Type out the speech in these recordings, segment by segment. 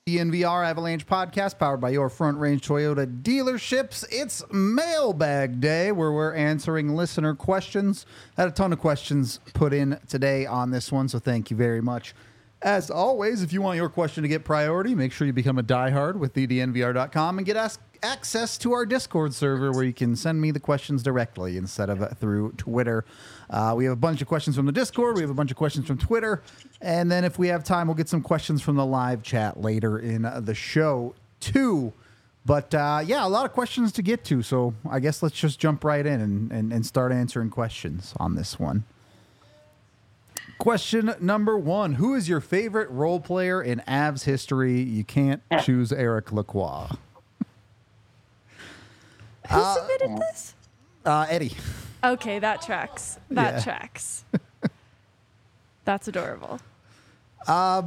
DNVR Avalanche podcast powered by your Front Range Toyota dealerships. It's mailbag day where we're answering listener questions. Had a ton of questions put in today on this one, so thank you very much. As always, if you want your question to get priority, make sure you become a diehard with DNVR.com and get access to our Discord server where you can send me the questions directly instead of through Twitter. We have a bunch of questions from the Discord. We have a bunch of questions from Twitter. And then if we have time, we'll get some questions from the live chat later in the show, too. But, yeah, a lot of questions to get to. So I guess let's just jump right in and start answering questions on this one. Question number 1. Who is your favorite role player in Avs history? You can't choose Eric Lacroix. Who submitted this? Eddie. Okay, that tracks. That tracks. That's adorable. I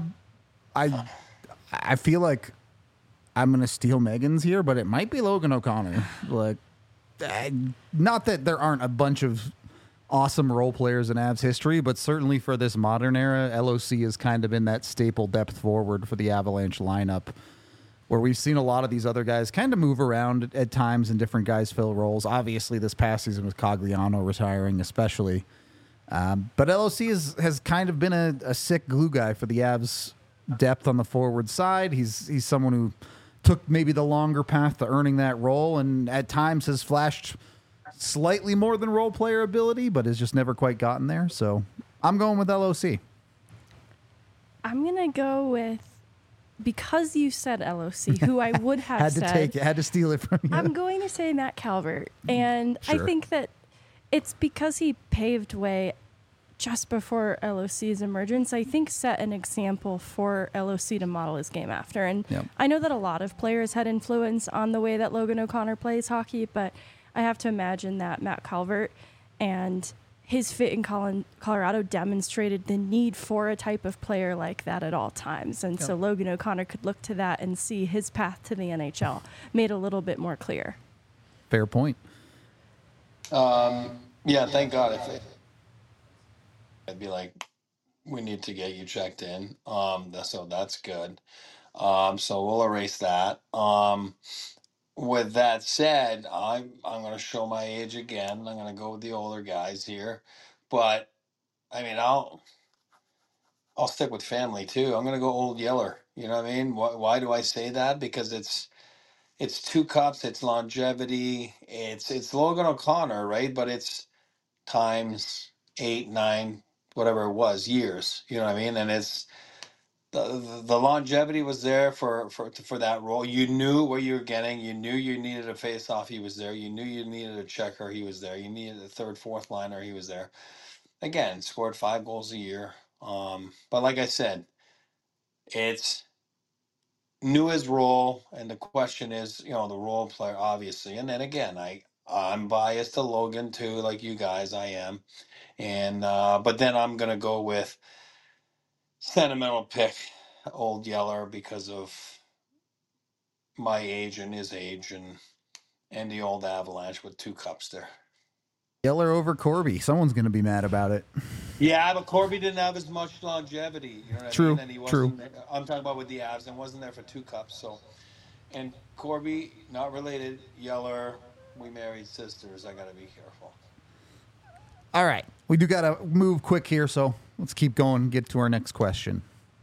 feel like I'm going to steal Megan's here, but it might be Logan O'Connor. Like, not that there aren't a bunch of awesome role players in Avs history, but certainly for this modern era, LOC has kind of been that staple depth forward for the Avalanche lineup, where we've seen a lot of these other guys kind of move around at times and different guys fill roles. Obviously, this past season with Cogliano retiring especially. But LOC has kind of been a sick glue guy for the Avs depth on the forward side. He's someone who took maybe the longer path to earning that role and at times has flashed slightly more than role player ability, but has just never quite gotten there. So I'm going with LOC. I'm going to go with, because you said LOC, who I would have had to steal it from you. I'm going to say Matt Calvert. And Sure. I think that it's because he paved way just before LOC's emergence, I think set an example for LOC to model his game after. And I know that a lot of players had influence on the way that Logan O'Connor plays hockey, but I have to imagine that Matt Calvert and his fit in Colorado demonstrated the need for a type of player like that at all times. And so Logan O'Connor could look to that and see his path to the NHL made a little bit more clear. Fair point. Yeah, thank God. I'd be like, we need to get you checked in. So that's good. So we'll erase that. With that said, I'm going to show my age again. I'm going to go with the older guys here, but I mean, I'll stick with family too. I'm going to go Old Yeller. You know what I mean? Why do I say that? Because it's 2 cups, it's longevity, it's Logan O'Connor, right? But it's times 8, 9, whatever it was, years. You know what I mean? And it's the longevity was there for that role. You knew what you were getting. You knew you needed a face-off. He was there. You knew you needed a checker. He was there. You needed a third, fourth liner. He was there. Again, scored 5 goals a year. But like I said, it's knew his role, and the question is, the role player, obviously. And then again, I'm biased to Logan too, like you guys. I am, and but then I'm gonna go with sentimental pick, Old Yeller, because of my age and his age, and the old Avalanche with 2 cups there. Yeller over Corby. Someone's going to be mad about it. Yeah, but Corby didn't have as much longevity. You know what True, I mean? And he wasn't, I'm talking about with the Avs, and wasn't there for 2 cups. So, and Corby, not related. Yeller, we married sisters. I got to be careful. All right. We do got to move quick here, so let's keep going and get to our next question.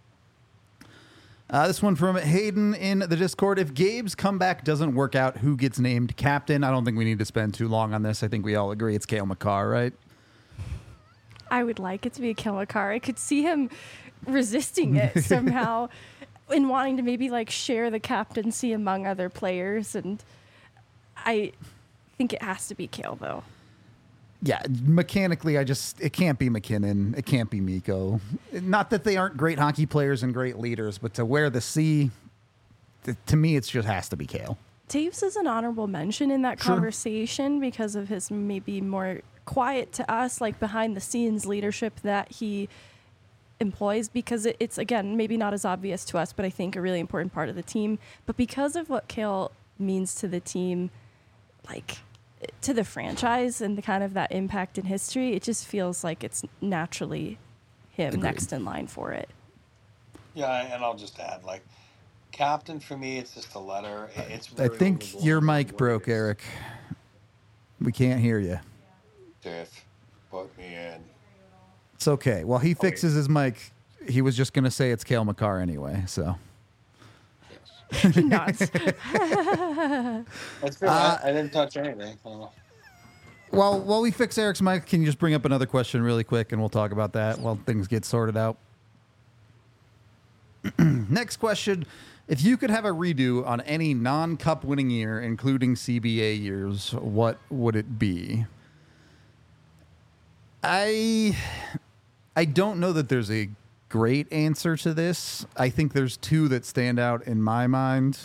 This one from Hayden in the Discord. If Gabe's comeback doesn't work out, who gets named captain? I don't think we need to spend too long on this. I think we all agree it's Cale Makar, right? I would like it to be Cale Makar. I could see him resisting it somehow and wanting to maybe share the captaincy among other players. And I think it has to be Cale, though. Yeah, mechanically, it can't be McKinnon. It can't be Mikko. Not that they aren't great hockey players and great leaders, but to wear the C, to me, it just has to be Cale. Taves is an honorable mention in that conversation because of his maybe more quiet to us, behind the scenes leadership that he employs, because it's, again, maybe not as obvious to us, but I think a really important part of the team. But because of what Cale means to the team, to the franchise and the kind of that impact in history, it just feels like it's naturally him next in line for it. Yeah, and I'll just add, captain for me, it's just a letter. It's I very think your overblown mic with broke, words. Eric. We can't hear you. Tiff, put me in. It's okay. While he fixes his mic, he was just going to say it's Cale Makar anyway, so. Yes. He nods. That's good. I didn't touch anything. Well, while we fix Eric's mic, can you just bring up another question really quick, and we'll talk about that while things get sorted out? Next question. If you could have a redo on any non-cup winning year, including CBA years, what would it be? I don't know that there's a great answer to this. I think there's two that stand out in my mind.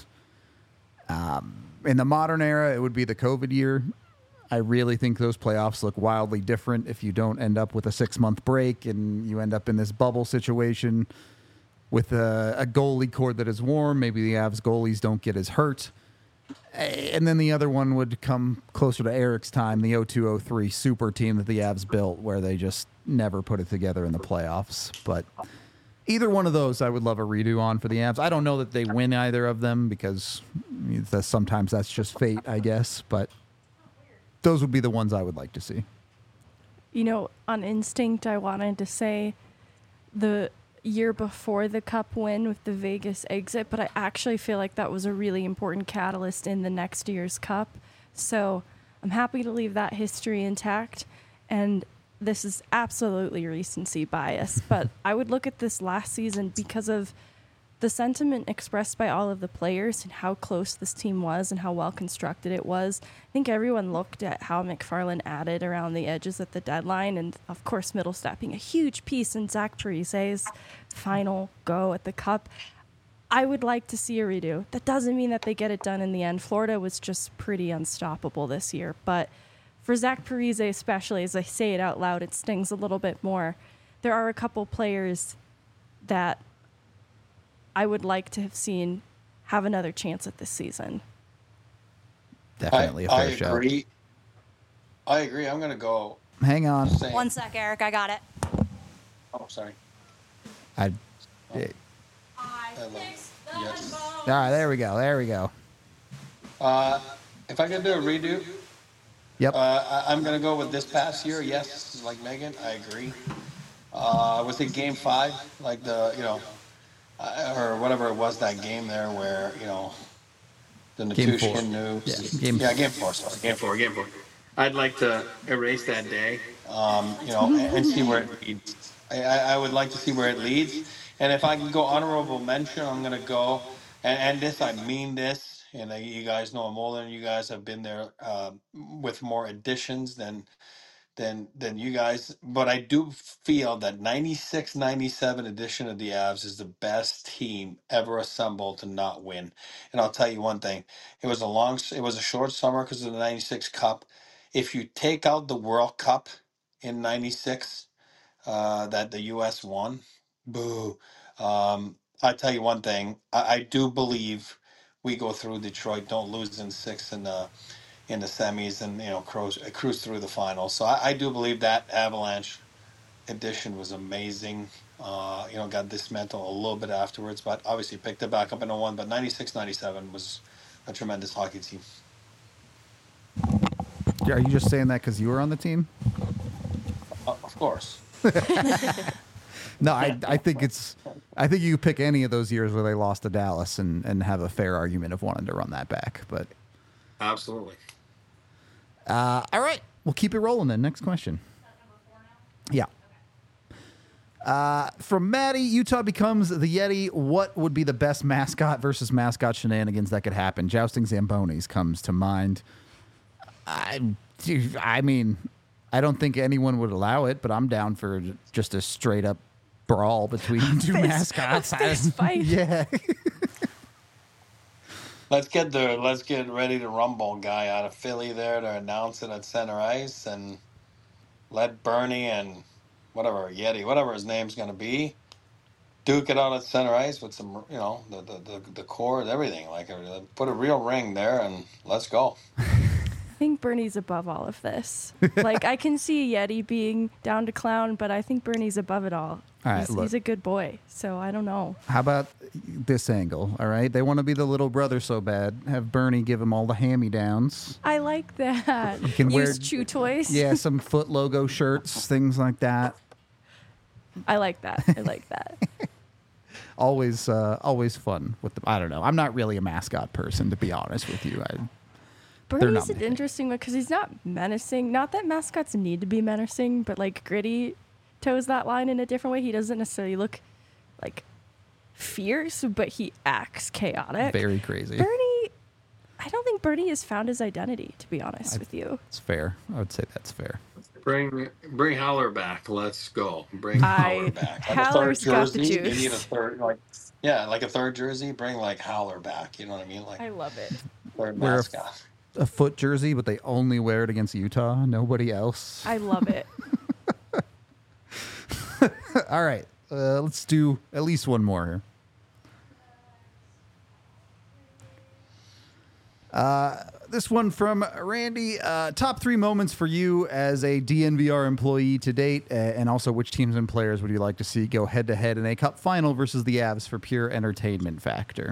In the modern era, it would be the COVID year. I really think those playoffs look wildly different if you don't end up with a 6-month break and you end up in this bubble situation with a goalie cord that is warm. Maybe the Avs goalies don't get as hurt. And then the other one would come closer to Eric's time, the 02-03 super team that the Avs built, where they just never put it together in the playoffs. But either one of those I would love a redo on for the Avs. I don't know that they win either of them because sometimes that's just fate, I guess. But those would be the ones I would like to see. You know, on instinct, I wanted to say the year before the cup win with the Vegas exit, but I actually feel like that was a really important catalyst in the next year's cup. So I'm happy to leave that history intact. And this is absolutely recency bias, but I would look at this last season because of the sentiment expressed by all of the players and how close this team was and how well constructed it was. I think everyone looked at how McFarland added around the edges at the deadline, and of course Middlestat being a huge piece in Zach Parise's final go at the Cup. I would like to see a redo. That doesn't mean that they get it done in the end. Florida was just pretty unstoppable this year, but for Zach Parise especially, as I say it out loud, it stings a little bit more. There are a couple players that I would like to have seen have another chance at this season. Definitely a fair show. I agree. I'm going to go. Hang on. One sec, Eric. I got it. Oh, sorry. Yes. All right, there we go. There we go. If I could do a redo, Yep. I'm going to go with this past year. Yes, like Megan, I agree. I would say Game 5, like or whatever it was, that game there where, the Natushkin news. Game 4, sorry. Game 4. I'd like to erase that day, and see where it leads. I would like to see where it leads. And if I can go honorable mention, I'm going to go, and this, I mean this, and you guys know I'm older than you guys have been there with more additions than you guys, but I do feel that 96-97 edition of the Avs is the best team ever assembled to not win. And I'll tell you one thing, it was a short summer because of the 96 Cup. If you take out the World Cup in 96 that the US won, boo. I tell you one thing, I do believe we go through Detroit, don't lose in 6 in the semis, and cruise through the finals. So I do believe that Avalanche edition was amazing. Got dismantled a little bit afterwards, but obviously picked it back up in 01. But 96-97 was a tremendous hockey team. Are you just saying that because you were on the team? Of course. No, I think you pick any of those years where they lost to Dallas and have a fair argument of wanting to run that back. But absolutely. All right, we'll keep it rolling then. Next question. Yeah. From Maddie, Utah becomes the Yeti. What would be the best mascot versus mascot shenanigans that could happen? Jousting Zambonis comes to mind. I mean, I don't think anyone would allow it, but I'm down for just a straight up brawl between two mascots. Fist fight. Yeah. Let's get ready to rumble guy out of Philly there to announce it at center ice, and let Bernie and Yeti, whatever his name's going to be, duke it out at center ice with some, the cord, everything. Like, put a real ring there and let's go. I think Bernie's above all of this. Like, I can see Yeti being down to clown, but I think Bernie's above it all. All right, He's a good boy, so I don't know. How about this angle? All right, they want to be the little brother so bad. Have Bernie give him all the hand-me-downs. I like that. You can Use Chew toys. Yeah, some Foot logo shirts, things like that. I like that. I like that. Always fun with the. I don't know. I'm not really a mascot person, to be honest with you. Bernie's an interesting one because he's not menacing. Not that mascots need to be menacing, but like Gritty toes that line in a different way. He doesn't necessarily look like fierce, but he acts chaotic. Very crazy. Bernie, I don't think Bernie has found his identity, to be honest with you. It's fair. I would say that's fair. Bring Howler back. Let's go. Bring Howler back. Howler's got the juice. You need a third, like a third jersey. Bring like Howler back. You know what I mean? Like I love it. Third mascot. A Foot jersey, but they only wear it against Utah. Nobody else. I love it. All right. Let's do at least one more here. This one from Randy. Top 3 moments for you as a DNVR employee to date, and also which teams and players would you like to see go head-to-head in a cup final versus the Avs for pure entertainment factor?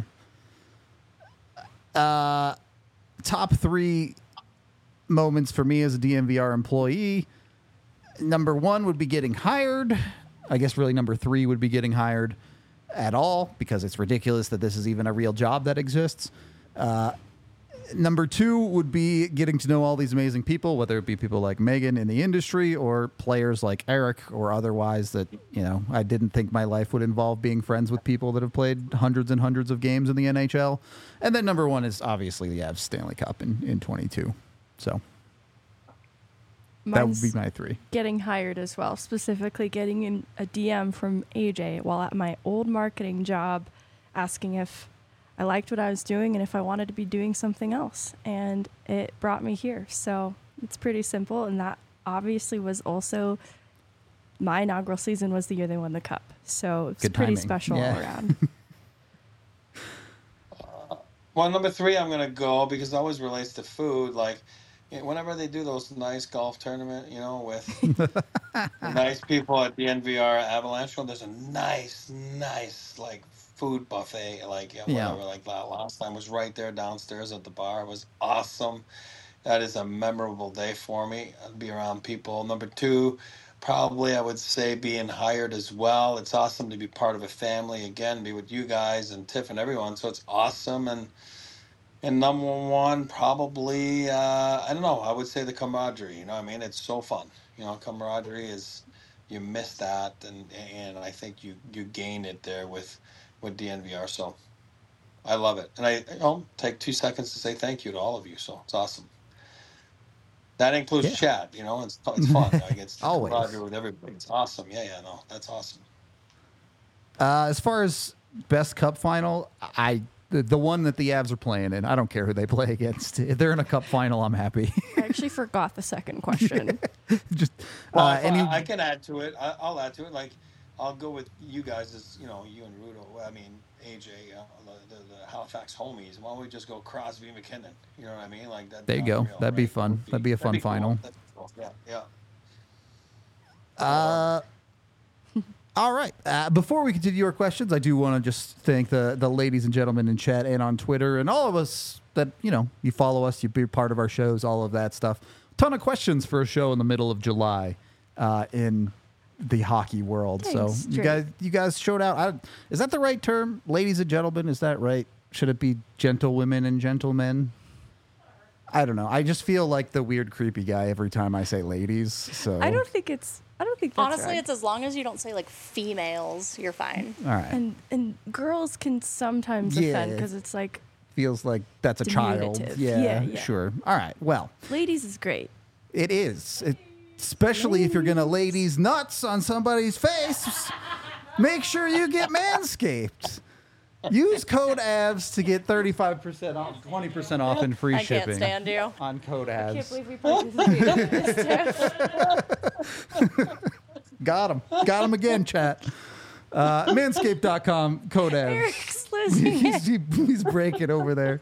Top 3 moments for me as a DNVR employee. Number 1 would be getting hired. I guess really number 3 would be getting hired at all, because it's ridiculous that this is even a real job that exists. Number 2 would be getting to know all these amazing people, whether it be people like Megan in the industry or players like Eric or otherwise that, you know, I didn't think my life would involve being friends with people that have played hundreds and hundreds of games in the NHL. And then number 1 is obviously the Avs Stanley Cup in 22. So that would be my 3. Getting hired as well, specifically getting in a DM from AJ while at my old marketing job, asking if I liked what I was doing and if I wanted to be doing something else. And it brought me here. So it's pretty simple. And that obviously was also my inaugural season was the year they won the cup. So it's pretty special all around. Well, number 3, I'm going to go because it always relates to food. Like, whenever they do those nice golf tournament, you know, with nice people at the NVR Avalanche, there's a nice, like, food buffet, like whatever, like that last time was right there downstairs at the bar. It was awesome. That is a memorable day for me. I'd be around people. Number 2, probably I would say being hired as well. It's awesome to be part of a family again, be with you guys and Tiff and everyone. So it's awesome. And number 1, probably I don't know. I would say the camaraderie. You know what I mean? It's so fun. You know, camaraderie is, you miss that, and I think you gain it there with DNVR. So I love it, and I take 2 seconds to say thank you to all of you. So it's awesome. That includes chat. You know, it's fun. Like it's always with everybody. It's awesome. Yeah, no, that's awesome. As far as best cup final, the one that the Avs are playing in, I don't care who they play against. If they're in a cup final, I'm happy. I actually forgot the second question. Just I can add to it. I'll add to it. Like, I'll go with you guys as, you know, you and Rudo. I mean, AJ, the Halifax homies. Why don't we just go Crosby, McKinnon? You know what I mean? Like that. There you go. That'd be fun. That'd be a fun final. Cool. Yeah. All right. Before we continue our questions, I do want to just thank the ladies and gentlemen in chat and on Twitter and all of us that, you know, you follow us, you be part of our shows, all of that stuff. Ton of questions for a show in the middle of July in the hockey world. Thanks, so you guys showed out. Is that the right term? Ladies and gentlemen, is that right? Should it be gentlewomen and gentlemen? I don't know. I just feel like the weird, creepy guy every time I say ladies. So I don't think that's honestly right. It's as long as you don't say like females, you're fine. All right. And girls can sometimes offend because it's like feels like that's a child. Yeah, sure. All right. Well, ladies is great. It is. Especially if you're going to lay these nuts on somebody's face, make sure you get Manscaped. Use code AVS to get 35% off, 20% off and free shipping. I can't stand you. On code AVS. I can't believe we participated in this. Got him again, chat. Manscaped.com, code AVS. Eric's losing it. He's breaking over there.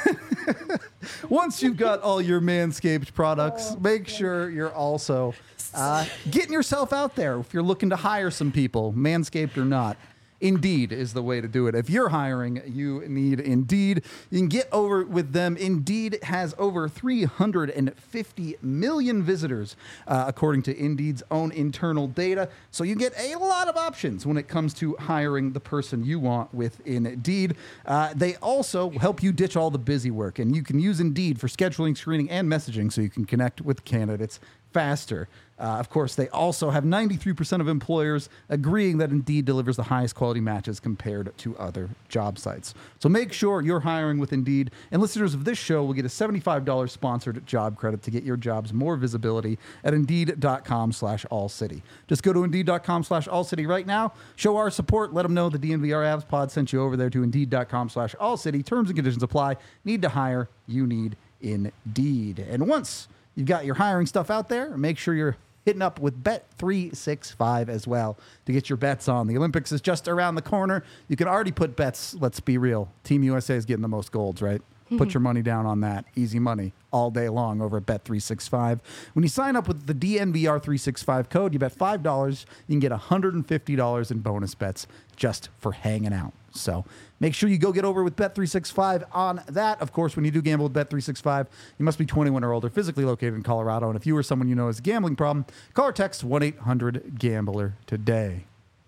Once you've got all your Manscaped products, make sure you're also Getting yourself out there if you're looking to hire some people, Manscaped or not. Indeed is the way to do it. If you're hiring, you need Indeed. You can get over with them. Indeed has over 350 million visitors, according to Indeed's own internal data. So you get a lot of options when it comes to hiring the person you want with Indeed. They also help you ditch all the busy work, and you can use Indeed for scheduling, screening, and messaging so you can connect with candidates faster. Of course, they also have 93% of employers agreeing that Indeed delivers the highest quality matches compared to other job sites. So make sure you're hiring with Indeed, and listeners of this show will get a $75 sponsored job credit to get your jobs more visibility at Indeed.com/AllCity. Just go to Indeed.com/AllCity right now. Show our support. Let them know the DNVR Avs Pod sent you over there to Indeed.com/AllCity. Terms and conditions apply. Need to hire. You need Indeed. And once you've got your hiring stuff out there, make sure you're hitting up with Bet365 as well to get your bets on. The Olympics is just around the corner. You can already put bets. Let's be real. Team USA is getting the most golds, right? Put your money down on that. Easy money all day long over at Bet365. When you sign up with the DNVR365 code, you bet $5. You can get $150 in bonus bets just for hanging out. So make sure you go get over with Bet365 on that. Of course, when you do gamble with Bet365, you must be 21 or older, physically located in Colorado. And if you or someone you know has a gambling problem, call or text 1-800-GAMBLER today.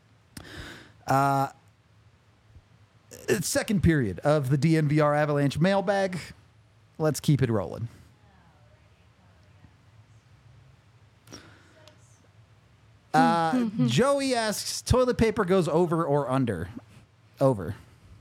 Second period of the DNVR Avalanche mailbag. Let's keep it rolling. Joey asks, toilet paper goes over or under? Over.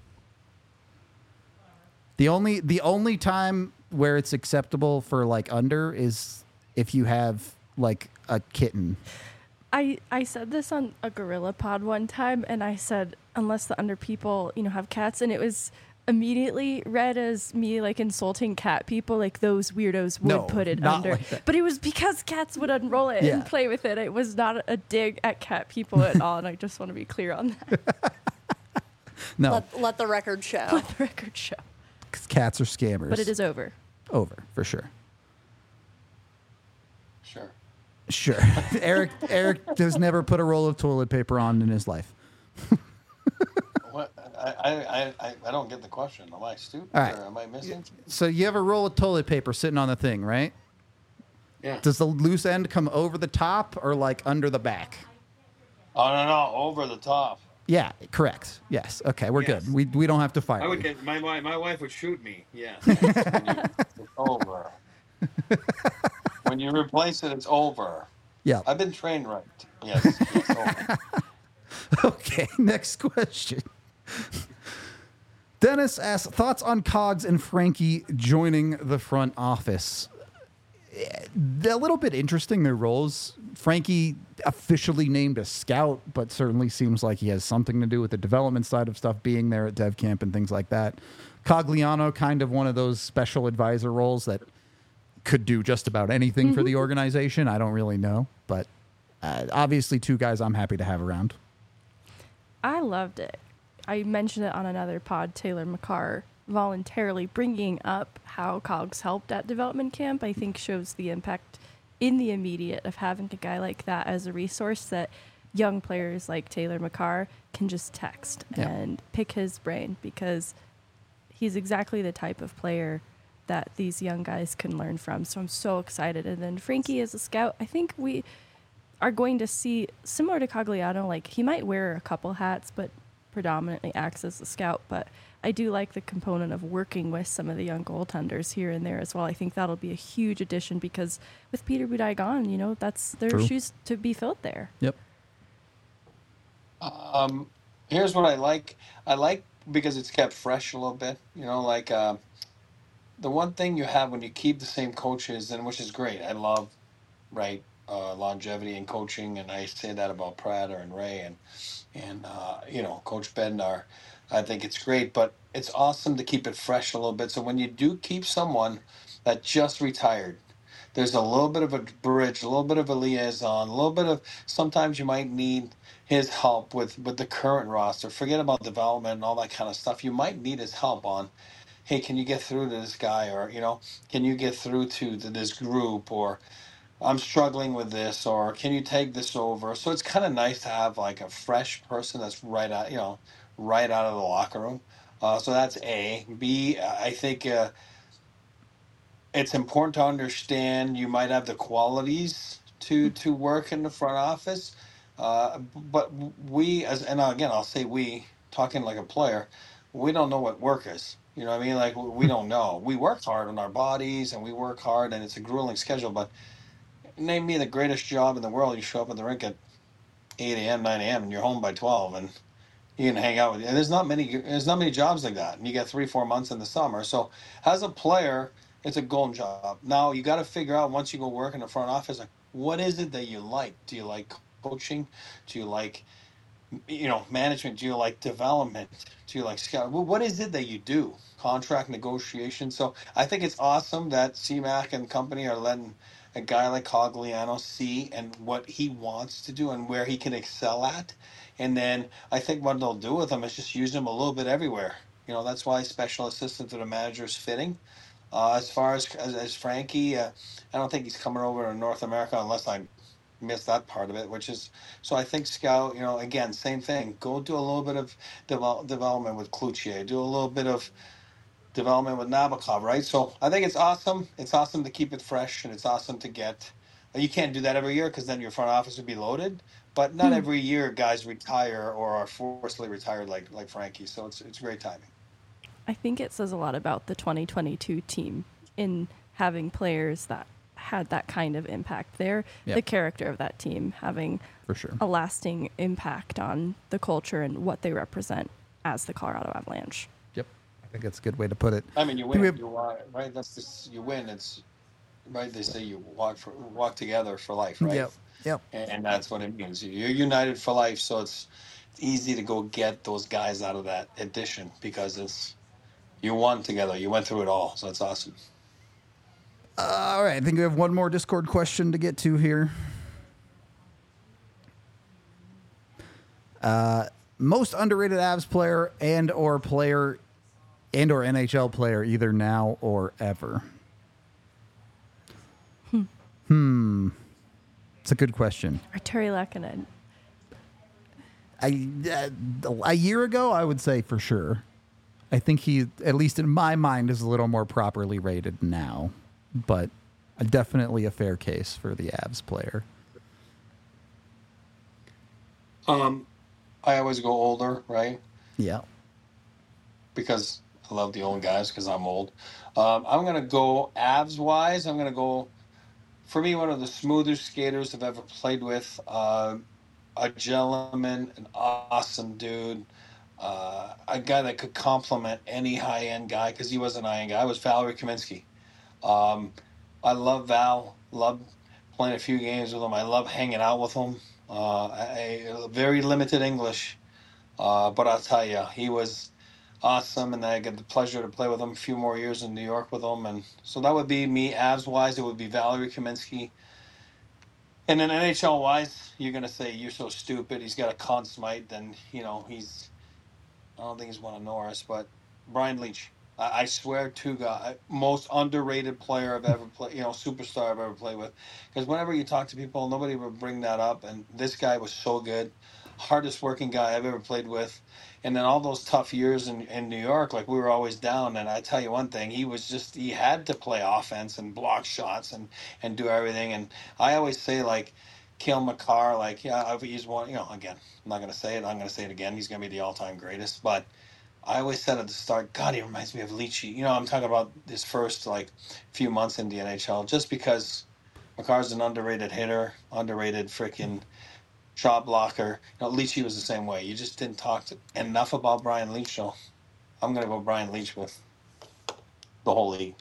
The only time where it's acceptable for like under is if you have like a kitten. I said this on a Gorilla Pod one time, and I said, unless the under people, have cats, and it was immediately read as me like insulting cat people, like those weirdos would put it under. Like, but it was because cats would unroll it and play with it. It was not a dig at cat people at all, and I just want to be clear on that. No. Let the record show. Let the record show. Because cats are scammers. But it is over. Over, for sure. Sure. Eric has never put a roll of toilet paper on in his life. What? I don't get the question. Am I stupid or am I missing? So you have a roll of toilet paper sitting on the thing, right? Yeah. Does the loose end come over the top or like under the back? Oh, no, over the top. Yeah, correct. Yes. Okay, we're good. We don't have to fight. I would get my wife would shoot me. Yeah. It's over. When you replace it, it's over. Yeah. I've been trained right. Yes. It's over. Okay, next question. Dennis asks, thoughts on Cogs and Frankie joining the front office? A little bit interesting, their roles. Frankie officially named a scout, but certainly seems like he has something to do with the development side of stuff, being there at Dev Camp and things like that. Cogliano, kind of one of those special advisor roles that could do just about anything for the organization. I don't really know, but obviously two guys I'm happy to have around. I loved it. I mentioned it on another pod, Taylor McCarr voluntarily bringing up how Cogs helped at development camp, I think shows the impact in the immediate of having a guy like that as a resource that young players like Taylor McCarr can just text and pick his brain, because he's exactly the type of player that these young guys can learn from. So I'm so excited. And then Frankie as a scout, I think we are going to see, similar to Cogliano, like he might wear a couple hats, but predominantly acts as a scout. But I do like the component of working with some of the young goaltenders here and there as well. I think that'll be a huge addition, because with Peter Budaj gone, that's their shoes to be filled there. Yep. Here's what I like. I like because it's kept fresh a little bit. The one thing you have when you keep the same coaches, and which is great. I love, longevity in coaching, and I say that about Prater and Ray and Coach Bednar. I think it's great, but it's awesome to keep it fresh a little bit. So when you do keep someone that just retired, there's a little bit of a bridge, a little bit of a liaison, a little bit of, sometimes you might need his help with the current roster. Forget about development and all that kind of stuff. You might need his help on, hey, can you get through to this guy? Or, can you get through to this group? Or I'm struggling with this, or can you take this over? So it's kind of nice to have like a fresh person that's right out of the locker room. So that's A. B, I think it's important to understand you might have the qualities to work in the front office, but we and again I'll say we talking like a player, we don't know what work is. You know what I mean? Like we don't know. We work hard on our bodies and we work hard, and it's a grueling schedule. But name me the greatest job in the world. You show up at the rink at 8 a.m., 9 a.m., and you're home by 12, and you can hang out with. And there's not many jobs like that, and you get 3-4 months in the summer. So as a player, it's a golden job. Now you got to figure out once you go work in the front office, like what is it that you like? Do you like coaching? Do you like management? Do you like development? Do you like scout? What is it that you do? Contract negotiation. So I think it's awesome that CMAC and company are letting a guy like Cogliano see and what he wants to do and where he can excel at. And then I think what they'll do with him is just use him a little bit everywhere. That's why special assistant to the manager is fitting. As far as Frankie, I don't think he's coming over to North America unless I missed that part of it, which is so I think scout, again, same thing. Go do a little bit of development with Cloutier, do a little bit of development with Nabokov, right? So I think it's awesome. It's awesome to keep it fresh, and it's awesome to get. You can't do that every year because then your front office would be loaded. But not every year guys retire or are forcibly retired like Frankie. So it's great timing. I think it says a lot about the 2022 team in having players that had that kind of impact there. Yep. The character of that team having for sure a lasting impact on the culture and what they represent as the Colorado Avalanche. Yep, I think that's a good way to put it. I mean, you win, right? That's this. You win. It's right. They say you walk together for life, right? Yep. And that's what it means. You're united for life. So it's easy to go get those guys out of that addition because you won together. You went through it all. So it's awesome. All right. I think we have one more Discord question to get to here. Most underrated Avs player and or NHL player, either now or ever. It's a good question. Artturi Lehkonen. A year ago, I would say for sure. I think he, at least in my mind, is a little more properly rated now. But definitely a fair case for the Avs player. I always go older, right? Yeah. Because I love the old guys because I'm old. I'm going to go Avs-wise. I'm going to go, for me, one of the smoothest skaters I've ever played with. A gentleman, an awesome dude. A guy that could complement any high-end guy because he was an high-end guy. Was Valeri Kaminsky. I love Val. Love playing a few games with him. I love hanging out with him. Very limited English, but I'll tell you, he was awesome, and I get the pleasure to play with him a few more years in New York with him, and so that would be me. Avs-wise, it would be Valeri Kaminsky. And then NHL-wise, you're gonna say you're so stupid. He's got a Conn Smythe, then he's. I don't think he's won a Norris, but Brian Leetch. I swear to God, most underrated player I've ever played, superstar I've ever played with. Because whenever you talk to people, nobody would bring that up. And this guy was so good. Hardest working guy I've ever played with. And then all those tough years in New York, like we were always down. And I tell you one thing, he had to play offense and block shots and do everything. And I always say, like, Cale Makar, he's one, again, I'm not going to say it. I'm going to say it again. He's going to be the all-time greatest. But I always said at the start, God, he reminds me of Leachy. I'm talking about his first few months in the NHL, just because Makar's an underrated hitter, underrated freaking shot blocker. Leachy was the same way. You just didn't talk enough about Brian Leetch. So I'm going to go Brian Leetch with the whole league.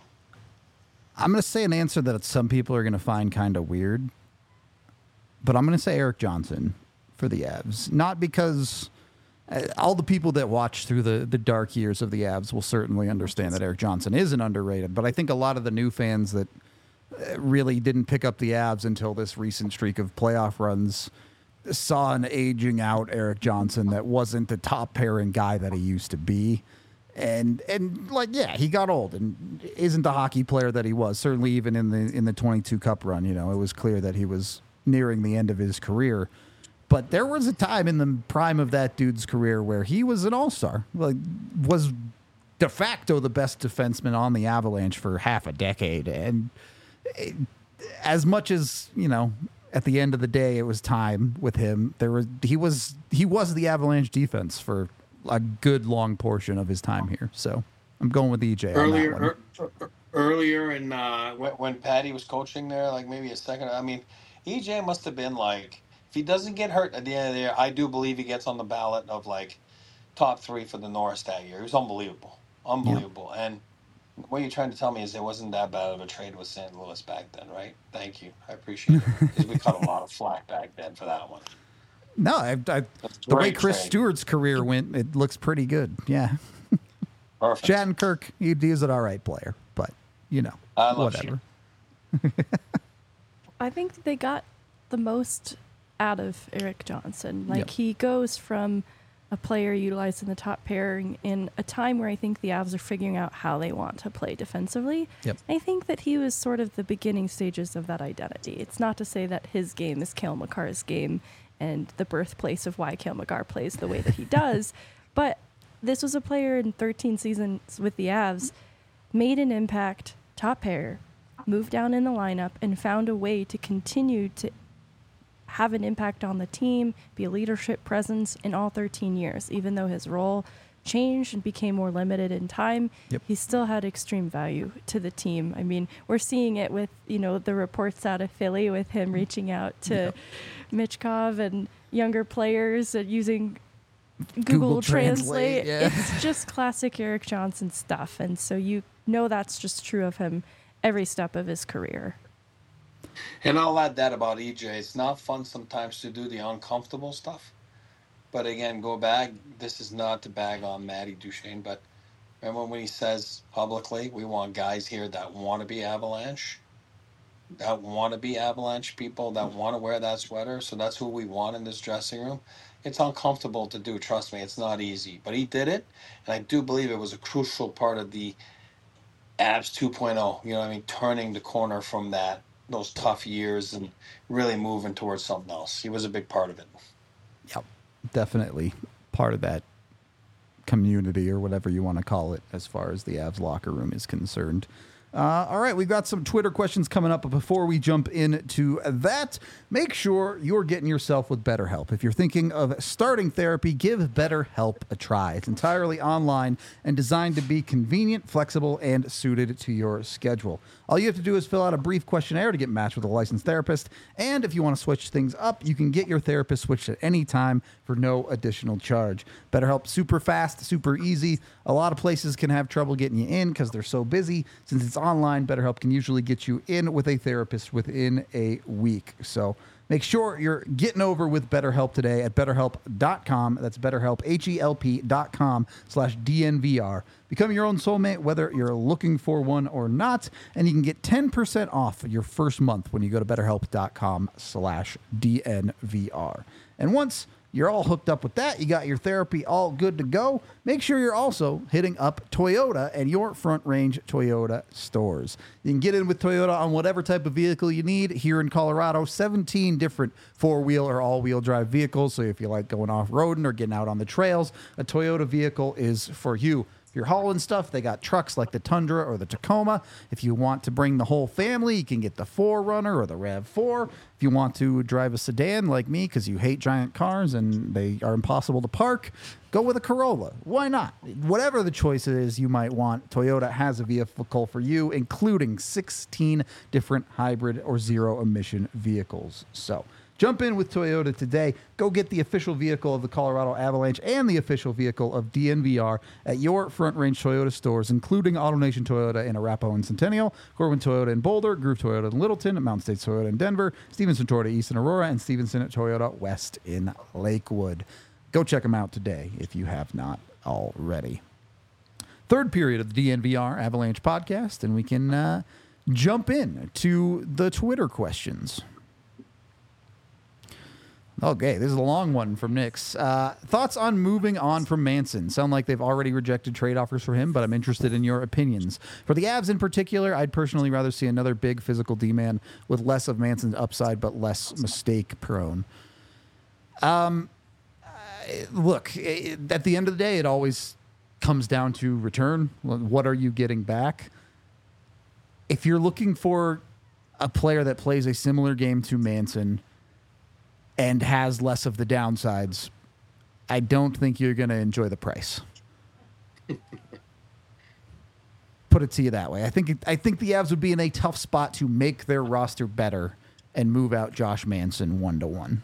I'm going to say an answer that some people are going to find kind of weird, but I'm going to say Erik Johnson for the Avs. Not because all the people that watch through the dark years of the Avs will certainly understand that Erik Johnson isn't underrated, but I think a lot of the new fans that really didn't pick up the Avs until this recent streak of playoff runs saw an aging out Erik Johnson that wasn't the top pairing guy that he used to be. And like, yeah, he got old and isn't the hockey player that he was. Certainly, even in the 22 Cup run, it was clear that he was nearing the end of his career. But there was a time in the prime of that dude's career where he was an all-star, like was de facto the best defenseman on the Avalanche for half a decade. And as much as at the end of the day, it was time with him. He was the Avalanche defense for a good long portion of his time here. So I'm going with EJ on that one. Earlier in when Patty was coaching there, like maybe a second. I mean, EJ must have been like, if he doesn't get hurt at the end of the year, I do believe he gets on the ballot of like top 3 for the Norris that year. He was unbelievable. Yeah. And what you're trying to tell me is it wasn't that bad of a trade with St. Louis back then, right? Thank you. I appreciate it. Because we cut a lot of flack back then for that one. No, the way Chris Stewart's career went, it looks pretty good. Yeah. Perfect. Shattenkirk, he's an all right player, but, whatever. I think they got the most out of Erik Johnson. Like, Yep. he goes from a player utilized in the top pairing in a time where I think the Avs are figuring out how they want to play defensively. Yep. I think that he was sort of the beginning stages of that identity. It's not to say that his game is Cale Makar's game and the birthplace of why Cale Makar plays the way that he does. But this was a player in 13 seasons with the Avs, made an impact, top pair, moved down in the lineup, and found a way to continue to have an impact on the team, be a leadership presence in all 13 years. Even though his role changed and became more limited in time, Yep. he still had extreme value to the team. I mean, we're seeing it with, the reports out of Philly with him reaching out to Michkov and younger players and using Google Translate. Yeah. It's just classic Erik Johnson stuff. And so that's just true of him every step of his career. And I'll add that about EJ. It's not fun sometimes to do the uncomfortable stuff. But again, go back. This is not to bag on Matty Duchene, but remember when he says publicly, we want guys here that want to be Avalanche, people that want to wear that sweater. So that's who we want in this dressing room. It's uncomfortable to do. Trust me, it's not easy. But he did it, and I do believe it was a crucial part of the Avs 2.0. Turning the corner from those tough years and really moving towards something else. He was a big part of it. Yep, definitely part of that community or whatever you want to call it as far as the Avs locker room is concerned. All right, we've got some Twitter questions coming up, but before we jump into that, make sure you're getting yourself with BetterHelp. If you're thinking of starting therapy, give BetterHelp a try. It's entirely online and designed to be convenient, flexible, and suited to your schedule. All you have to do is fill out a brief questionnaire to get matched with a licensed therapist, and if you want to switch things up, you can get your therapist switched at any time for no additional charge. BetterHelp, super fast, super easy. A lot of places can have trouble getting you in because they're so busy. Since it's online, BetterHelp can usually get you in with a therapist within a week. So make sure you're getting over with BetterHelp today at BetterHelp.com. That's BetterHelp, HELP.com/DNVR. Become your own soulmate, whether you're looking for one or not. And you can get 10% off your first month when you go to BetterHelp.com/DNVR. And once you're all hooked up with that, you got your therapy all good to go, make sure you're also hitting up Toyota and your Front Range Toyota stores. You can get in with Toyota on whatever type of vehicle you need. Here in Colorado, 17 different four-wheel or all-wheel drive vehicles. So if you like going off-roading or getting out on the trails, a Toyota vehicle is for you. If you're hauling stuff, they got trucks like the Tundra or the Tacoma. If you want to bring the whole family, you can get the 4Runner or the RAV4. If you want to drive a sedan like me because you hate giant cars and they are impossible to park, go with a Corolla. Why not? Whatever the choice is you might want, Toyota has a vehicle for you, including 16 different hybrid or zero-emission vehicles. So jump in with Toyota today. Go get the official vehicle of the Colorado Avalanche and the official vehicle of DNVR at your Front Range Toyota stores, including AutoNation Toyota in Arapahoe and Centennial, Corwin Toyota in Boulder, Groove Toyota in Littleton, Mountain States Toyota in Denver, Stevenson Toyota East in Aurora, and Stevenson Toyota West in Lakewood. Go check them out today if you have not already. Third period of the DNVR Avalanche podcast, and we can jump in to the Twitter questions. Okay, this is a long one from Nick's. Thoughts on moving on from Manson? Sound like they've already rejected trade offers for him, but I'm interested in your opinions. For the Avs in particular, I'd personally rather see another big physical D-man with less of Manson's upside, but less mistake prone. Look, at the end of the day, it always comes down to return. What are you getting back? If you're looking for a player that plays a similar game to Manson and has less of the downsides, I don't think you're going to enjoy the price. Put it to you that way. I think the Avs would be in a tough spot to make their roster better and move out Josh Manson 1-1.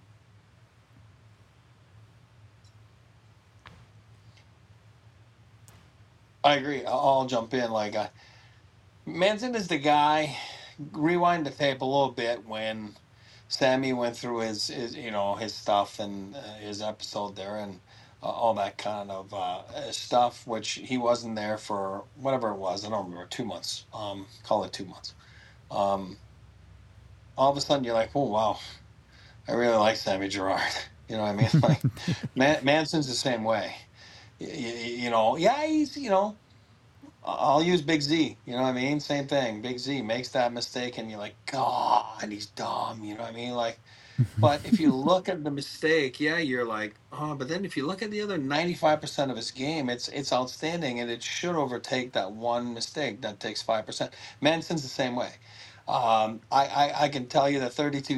I agree. I'll jump in. Manson is the guy. Rewind the tape a little bit when Sammy went through his stuff and his episode there and all that kind of stuff, which he wasn't there for whatever it was. I don't remember, 2 months. Call it 2 months. All of a sudden you're like, oh wow, I really like Sammy Girard. You know what I mean? Like Manson's the same way. Yeah, he's I'll use Big Z. You know what I mean? Same thing. Big Z makes that mistake, and you're like, God, he's dumb. You know what I mean? Like, but if you look at the mistake, yeah, you're like, oh. But then if you look at the other 95% of his game, it's outstanding, and it should overtake that one mistake that takes 5%. Manson's the same way. I can tell you that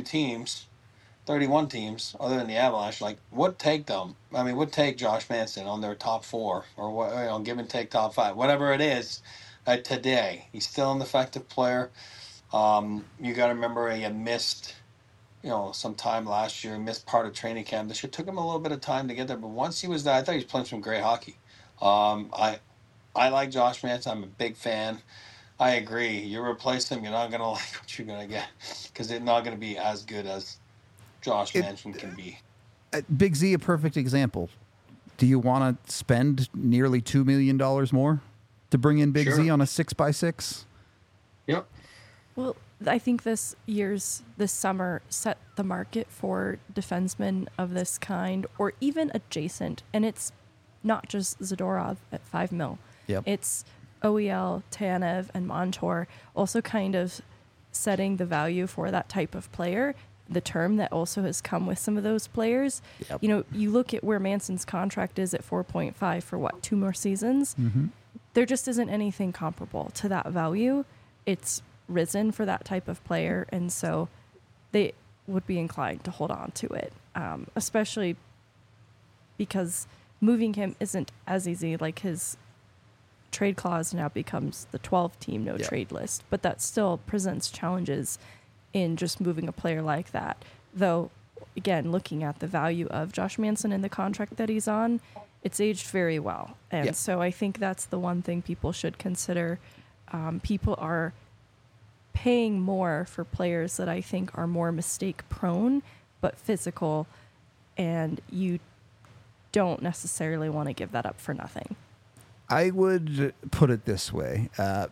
31 teams, other than the Avalanche, would take them. I mean, would take Josh Manson on their top 4 or what, give and take top 5, whatever it is. Today, he's still an effective player. You got to remember he had missed, some time last year, missed part of training camp. This year took him a little bit of time to get there, but once he was there, I thought he was playing some great hockey. I like Josh Manson. I'm a big fan. I agree. You replace him, you're not going to like what you're going to get because it's not going to be as good as Josh Manson can be. Big Z, a perfect example. Do you want to spend nearly $2 million more to bring in Big Z on a 6x6? Yep. Well, I think this summer set the market for defensemen of this kind or even adjacent. And it's not just Zadorov at $5 million. Yep. It's OEL, Tanev, and Montour also kind of setting the value for that type of player. The term that also has come with some of those players. Yep. You look at where Manson's contract is at 4.5 for 2 more seasons. Mm-hmm. There just isn't anything comparable to that value. It's risen for that type of player, and so they would be inclined to hold on to it, especially because moving him isn't as easy. Like his trade clause now becomes the 12-team no-trade list, but that still presents challenges in just moving a player like that. Though, again, looking at the value of Josh Manson and the contract that he's on, it's aged very well. And so I think that's the one thing people should consider. People are paying more for players that I think are more mistake-prone but physical, and you don't necessarily want to give that up for nothing. I would put it this way.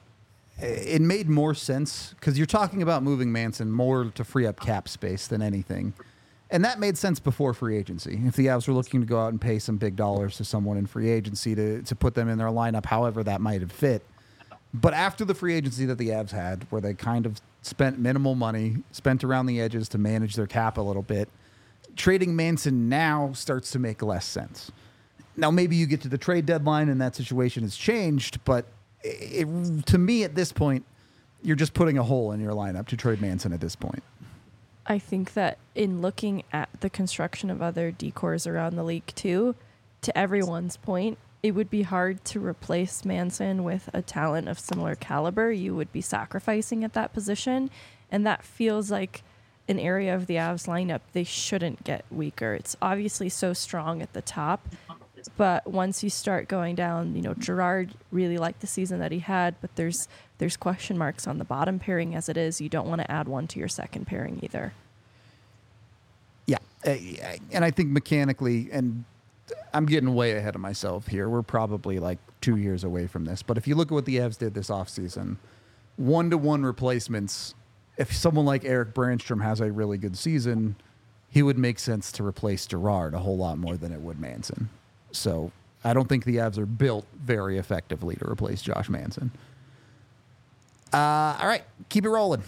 It made more sense because you're talking about moving Manson more to free up cap space than anything. And that made sense before free agency. If the Avs were looking to go out and pay some big dollars to someone in free agency to put them in their lineup, however that might have fit. But after the free agency that the Avs had, where they kind of spent minimal money, spent around the edges to manage their cap a little bit, trading Manson now starts to make less sense. Now, maybe you get to the trade deadline and that situation has changed, but to me at this point, you're just putting a hole in your lineup to trade Manson at this point. I think that in looking at the construction of other decors around the league too, to everyone's point, it would be hard to replace Manson with a talent of similar caliber. You would be sacrificing at that position, and that feels like an area of the Avs lineup they shouldn't get weaker. It's obviously so strong at the top, but once you start going down, Girard really liked the season that he had, but there's question marks on the bottom pairing as it is. You don't want to add one to your second pairing either. Yeah, and I think mechanically, and I'm getting way ahead of myself here. We're probably 2 years away from this, but if you look at what the Avs did this offseason, 1-to-1 replacements, if someone like Eric Brandstrom has a really good season, he would make sense to replace Girard a whole lot more than it would Manson. So I don't think the Avs are built very effectively to replace Josh Manson. All right, keep it rolling.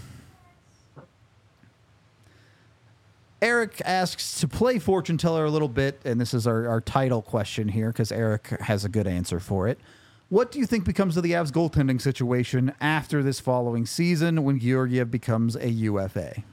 Eric asks to play fortune teller a little bit, and this is our title question here because Eric has a good answer for it. What do you think becomes of the Avs goaltending situation after this following season when Georgiev becomes a UFA?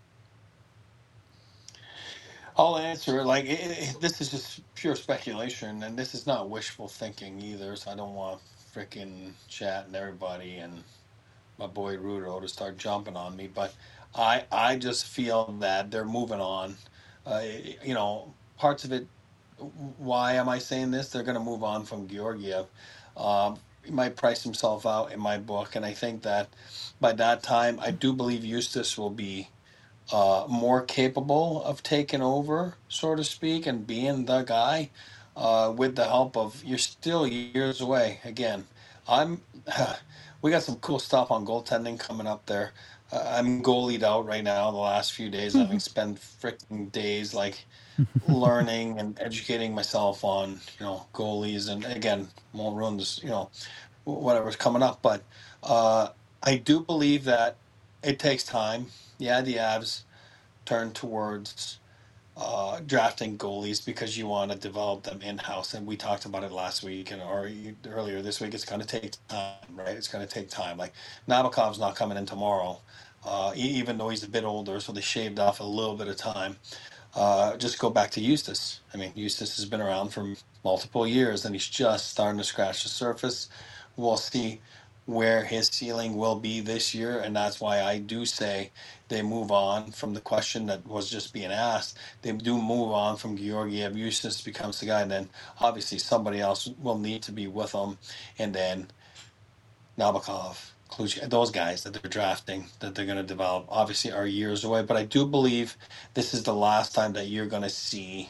I'll answer. Like, this is just pure speculation, and this is not wishful thinking either, so I don't want freaking chat and everybody and my boy Rudo to start jumping on me, but I just feel that they're moving on. Parts of it. Why am I saying this? They're going to move on from Georgiev. He might price himself out in my book, and I think that by that time, I do believe Eustace will be more capable of taking over, so to speak, and being the guy. With the help of, you're still years away. Again, we got some cool stuff on goaltending coming up there. I'm goalied out right now the last few days, having spent freaking days like learning and educating myself on, goalies. And again, won't ruin this, whatever's coming up. But I do believe that it takes time. Yeah, the Avs turn towards drafting goalies because you want to develop them in-house, and we talked about it last week or earlier this week. It's going to take time, right? It's going to take time. Like, Nabokov's not coming in tomorrow, even though he's a bit older, so they shaved off a little bit of time. Just go back to Eustace. I mean, Eustace has been around for multiple years, and he's just starting to scratch the surface. We'll see where his ceiling will be this year, and that's why I do say they move on from the question that was just being asked. They do move on from Georgiev. Eustace becomes the guy, and then obviously somebody else will need to be with him, and then Nabokov, Kluge, those guys that they're drafting, that they're going to develop, obviously are years away. But I do believe this is the last time that you're going to see,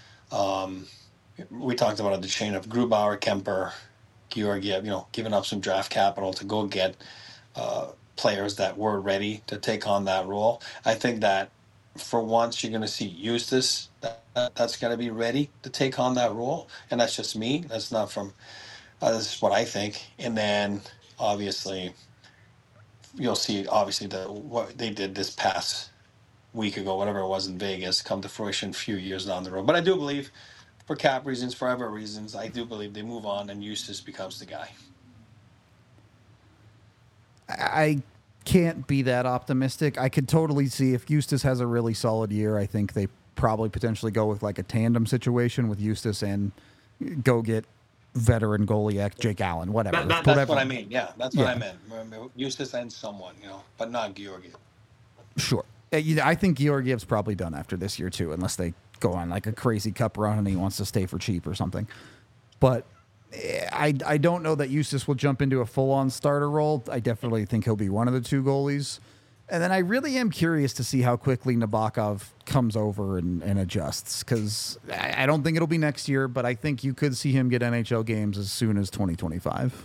we talked about the chain of Grubauer, Kemper, Georgiev, giving up some draft capital to go get players that were ready to take on that role. I think that for once you're going to see Eustace that's going to be ready to take on that role, and that's just me. That's not from. This is what I think. And then obviously you'll see what they did this past week ago, whatever it was in Vegas, come to fruition a few years down the road. But I do believe, for cap reasons, for other reasons, I do believe they move on and Eustace becomes the guy. I can't be that optimistic. I could totally see if Eustace has a really solid year, I think they probably potentially go with like a tandem situation with Eustace and go get veteran goalie Jake Allen, whatever. That's what I mean. Yeah, that's what I meant. Eustace and someone, but not Georgiev. Sure. I think Georgiev's probably done after this year too, unless they go on like a crazy cup run and he wants to stay for cheap or something. But I don't know that Eustace will jump into a full-on starter role. I definitely think he'll be one of the two goalies. And then I really am curious to see how quickly Nabokov comes over and adjusts, because I don't think it'll be next year, but I think you could see him get NHL games as soon as 2025.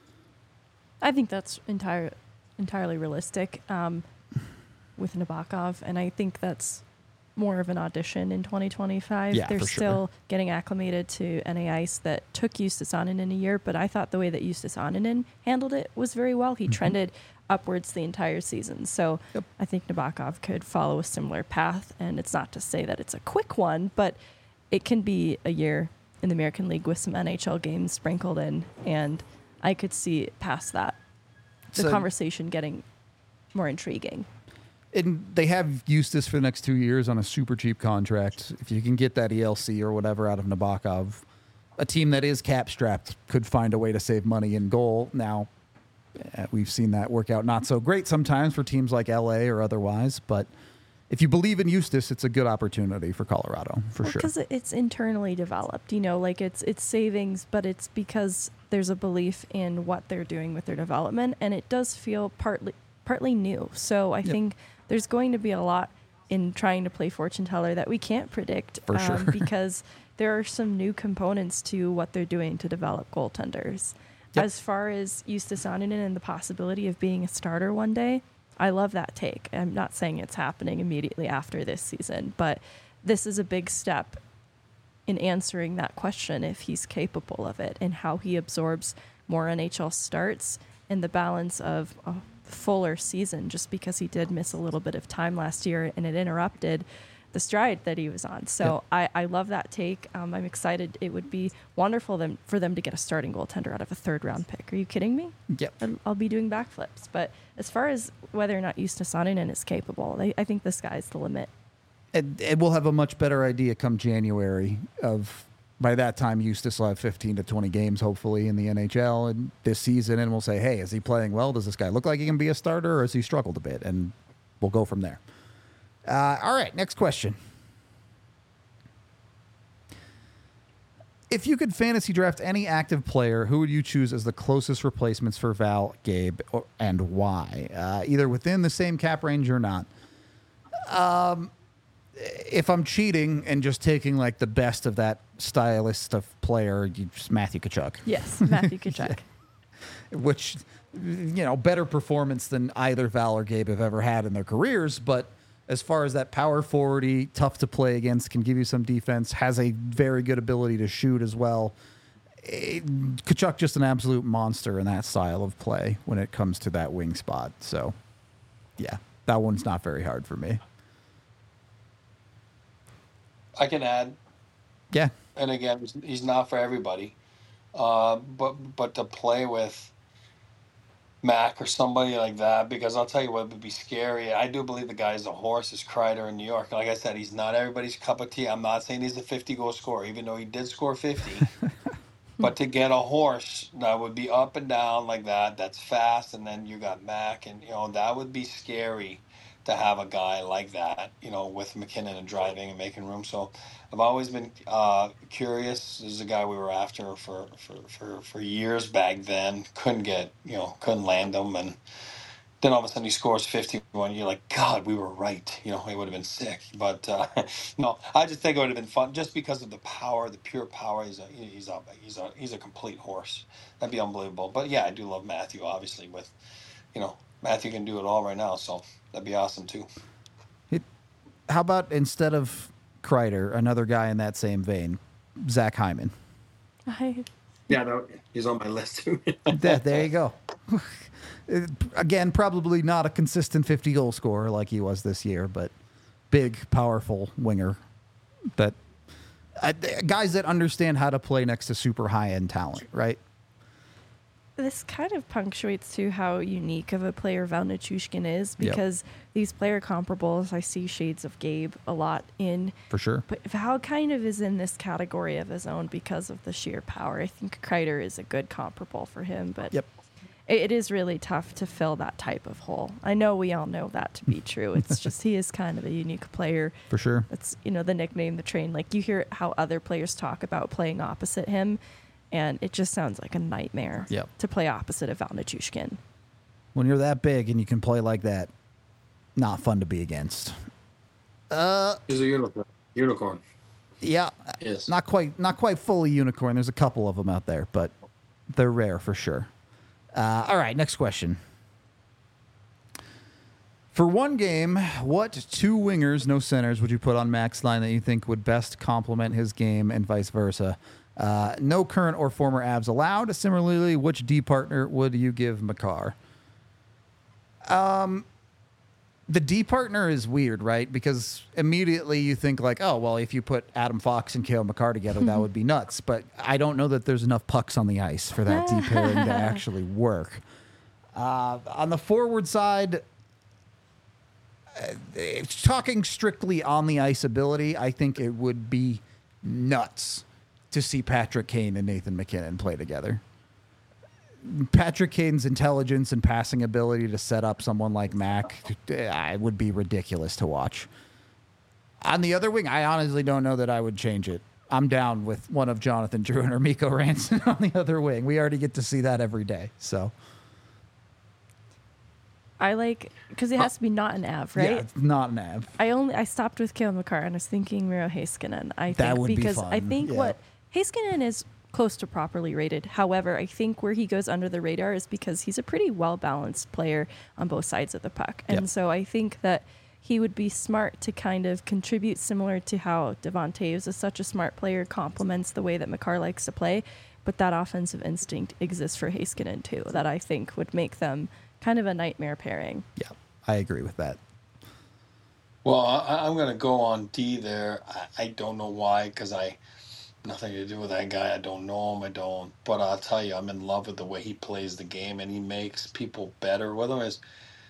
I think that's entirely realistic with Nabokov, and I think that's more of an audition in 2025. Yeah, They're for still sure. getting acclimated to NA Ice that took Justus Annunen a year, but I thought the way that Justus Annunen handled it was very well. He trended upwards the entire season. So I think Nabokov could follow a similar path, and it's not to say that it's a quick one, but it can be a year in the American League with some NHL games sprinkled in, and I could see past that, the conversation getting more intriguing. And they have Eustace for the next 2 years on a super cheap contract. If you can get that ELC or whatever out of Nabokov, a team that is cap strapped could find a way to save money in goal. Now, we've seen that work out not so great sometimes for teams like LA or otherwise, but if you believe in Eustace, it's a good opportunity for Colorado, for sure. Because it's internally developed, like it's savings, but it's because there's a belief in what they're doing with their development, and it does feel partly new. So I think there's going to be a lot in trying to play fortune teller that we can't predict, for sure. because there are some new components to what they're doing to develop goaltenders. As far as Justus Annunen and the possibility of being a starter one day, I love that take. I'm not saying it's happening immediately after this season, but this is a big step in answering that question if he's capable of it and how he absorbs more NHL starts and the balance of a fuller season, just because he did miss a little bit of time last year and it interrupted the stride that he was on. So I love that take. I'm excited. It would be wonderful for them to get a starting goaltender out of a third-round pick. Are you kidding me? Yep. I'll be doing backflips. But as far as whether or not Justus Saarinen is capable, I think the sky's the limit. And we'll have a much better idea come January of, by that time, Justus will have 15 to 20 games, hopefully, in the NHL and this season, and we'll say, hey, is he playing well? Does this guy look like he can be a starter, or has he struggled a bit? And we'll go from there. All right, next question. If you could fantasy draft any active player, who would you choose as the closest replacements for Val, Gabe, and why? Either within the same cap range or not. If I'm cheating and just taking like the best of that stylist of player, just Matthew Tkachuk. Yes, Matthew Tkachuk. Which, better performance than either Val or Gabe have ever had in their careers. But as far as that power forwardy, tough to play against, can give you some defense, has a very good ability to shoot as well. Tkachuk just an absolute monster in that style of play when it comes to that wing spot. So, yeah, that one's not very hard for me. I can add. Yeah. And again, he's not for everybody. But to play with Mac or somebody like that, because I'll tell you what would be scary. I do believe the guy is a horse, is Kreider in New York. Like I said, he's not everybody's cup of tea. I'm not saying he's a 50-goal scorer, even though he did score 50. But to get a horse that would be up and down like that, that's fast, and then you got Mac, and that would be scary to have a guy like that, with McKinnon and driving and making room. So I've always been curious. This is a guy we were after for years back then. Couldn't land him. And then all of a sudden he scores 51. You're like, God, we were right. It would have been sick. But no, I just think it would have been fun just because of the power, the pure power. He's a complete horse. That'd be unbelievable. But yeah, I do love Matthew, obviously, with, Matthew can do it all right now, so that'd be awesome too. How about instead of Kreider, another guy in that same vein, Zach Hyman? Yeah, no, he's on my list too. There you go. Again, probably not a consistent 50-goal scorer like he was this year, but big, powerful winger. That guys that understand how to play next to super high-end talent, right? This kind of punctuates to how unique of a player Val Nichushkin is, because these player comparables, I see shades of Gabe a lot in. For sure. But Val kind of is in this category of his own because of the sheer power. I think Kreider is a good comparable for him, but it is really tough to fill that type of hole. I know we all know that to be true. It's just he is kind of a unique player. For sure. It's, the nickname, the train. Like, you hear how other players talk about playing opposite him, and it just sounds like a nightmare to play opposite of Val Nichushkin. When you're that big and you can play like that, not fun to be against. He's a unicorn. Yeah. Yes. Not quite fully unicorn. There's a couple of them out there, but they're rare for sure. All right, next question. For one game, what two wingers, no centers, would you put on Mac's line that you think would best complement his game and vice versa? No current or former Avs allowed. Similarly, which D partner would you give Makar? The D partner is weird, right? Because immediately you think like, oh, well, if you put Adam Fox and Cale Makar together, that would be nuts. But I don't know that there's enough pucks on the ice for that D pairing to actually work. On the forward side, talking strictly on the ice ability, I think it would be nuts to see Patrick Kane and Nathan MacKinnon play together. Patrick Kane's intelligence and passing ability to set up someone like Mac, it would be ridiculous to watch. On the other wing, I honestly don't know that I would change it. I'm down with one of Jonathan Drouin or Mikko Ranson on the other wing. We already get to see that every day. So I like, because it has to be not an Av, right? Yeah, it's not an Av. I stopped with Cale Makar and I was thinking Miro Heiskanen. That would be because fun. I think what Heiskanen is close to properly rated. However, I think where he goes under the radar is because he's a pretty well-balanced player on both sides of the puck. And so I think that he would be smart to kind of contribute similar to how Devon Toews is such a smart player, complements the way that Makar likes to play. But that offensive instinct exists for Heiskanen too, that I think would make them kind of a nightmare pairing. Yeah, I agree with that. Well, I'm going to go on D there. I don't know why, because nothing to do with that guy. I don't know him. I don't. But I'll tell you, I'm in love with the way he plays the game, and he makes people better. Whether it's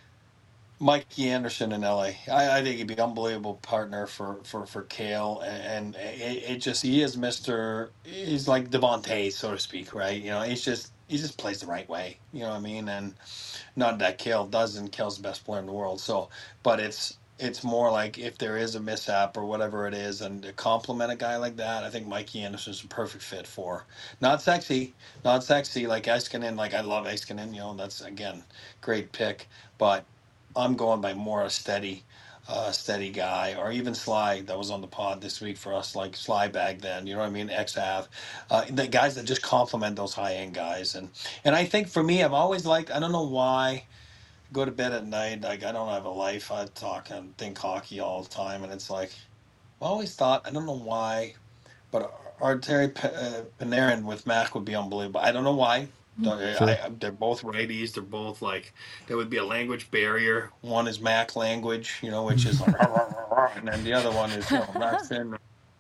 Mikey Anderson in LA, I think he'd be an unbelievable partner for Kale, and it just he is he's like Devontae, so to speak, right? You know, he just plays the right way. You know what I mean? And not that Kale doesn't. Kale's the best player in the world. So, but it's more like if there is a mishap or whatever it is, and to compliment a guy like that, I think Mikey Anderson's a perfect fit for. Not sexy like Heiskanen. Like I love Heiskanen. You know, that's again great pick, but I'm going by more a steady guy, or even Sly that was on the pod this week for us, like Sly back then. You know what I mean? Ex-Av, the guys that just complement those high-end guys, and I think for me, I've always liked. I don't know why. Go to bed at night, like I don't have a life. I talk and think hockey all the time, and it's like I always thought, I don't know why, but Artemi Panarin with Mac would be unbelievable. I don't know why. Sure. They're both righties. They're both like there would be a language barrier. One is Mac language, you know, which is like, and then the other one is Mac Finn.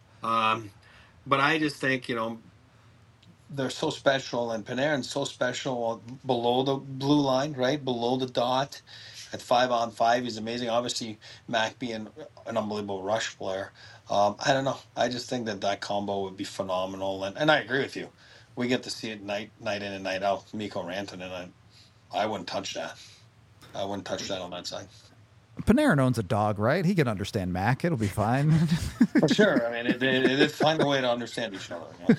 But I just think they're so special, and Panarin's so special below the blue line, right below the dot. At 5-on-5, he's amazing. Obviously, Mac being an unbelievable rush player. I don't know. I just think that combo would be phenomenal, and I agree with you. We get to see it night in and night out. Mikko Rantanen, and I wouldn't touch that. I wouldn't touch that on that side. Panarin owns a dog, right? He can understand Mac. It'll be fine. For sure. I mean, it find a way to understand each other. Yeah.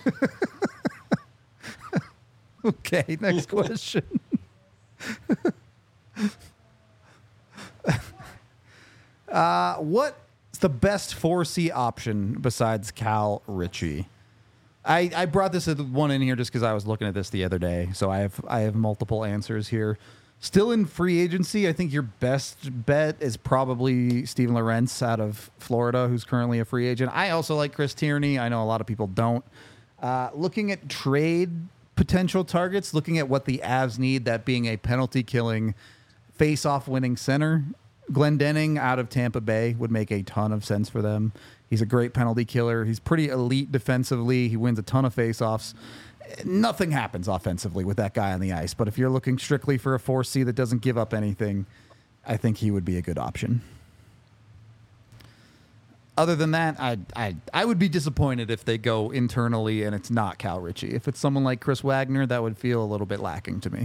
Okay, next question. What's the best 4C option besides Cal Ritchie? I brought this one in here just because I was looking at this the other day, so I have multiple answers here. Still in free agency, I think your best bet is probably Steven Lorentz out of Florida, who's currently a free agent. I also like Chris Tierney. I know a lot of people don't. Looking at trade potential targets, looking at what the Avs need, that being a penalty-killing, face-off winning center, Glendening out of Tampa Bay would make a ton of sense for them. He's a great penalty killer. He's pretty elite defensively. He wins a ton of face-offs. Nothing happens offensively with that guy on the ice, but if you're looking strictly for a 4C that doesn't give up anything, I think he would be a good option. Other than that, I would be disappointed if they go internally and it's not Cal Ritchie. If it's someone like Chris Wagner, that would feel a little bit lacking to me.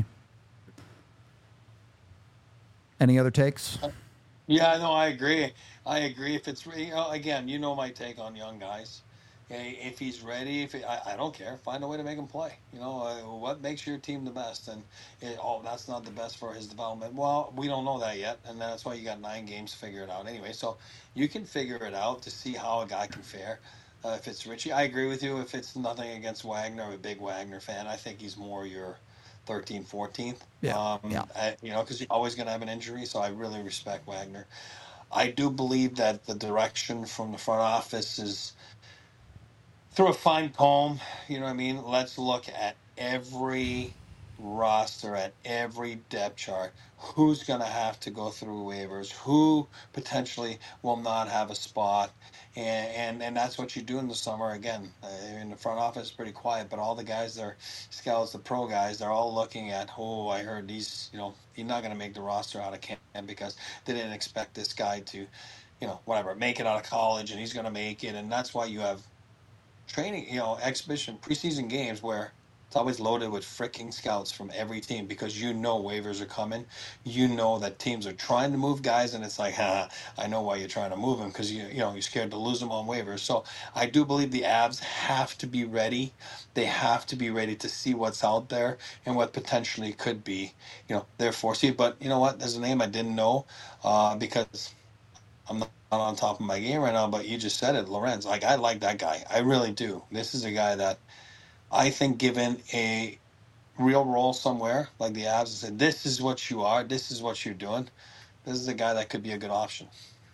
Any other takes? Yeah, no, I agree. If it's again, my take on young guys. If he's ready, I don't care. Find a way to make him play. What makes your team the best? And that's not the best for his development. Well, we don't know that yet, and that's why you got 9 games to figure it out anyway. So you can figure it out to see how a guy can fare. If it's Ritchie, I agree with you. If it's nothing against Wagner, I'm a big Wagner fan. I think he's more your 13th, 14th. Yeah. Because you're always going to have an injury. So I really respect Wagner. I do believe that the direction from the front office is through a fine comb. You know what I mean? Let's look at every roster, at every depth chart. Who's going to have to go through waivers? Who potentially will not have a spot? And that's what you do in the summer. Again, in the front office, pretty quiet, but all the guys, they're scouts, the pro guys, they're all looking at, I heard he's not going to make the roster out of camp because they didn't expect this guy to, make it out of college, and he's going to make it. And that's why you have training, exhibition, preseason games where it's always loaded with freaking scouts from every team, because waivers are coming. That teams are trying to move guys, and it's like, I know why you're trying to move them, because you're scared to lose them on waivers. So I do believe the Avs have to be ready. They have to be ready to see what's out there and what potentially could be, their 4C. But you know what? There's a name I didn't know because I'm not on top of my game right now, but you just said it, Lorentz. Like, I like that guy. I really do. This is a guy that I think given a real role somewhere like the Avs and said, this is what you are, this is what you're doing, this is a guy that could be a good option.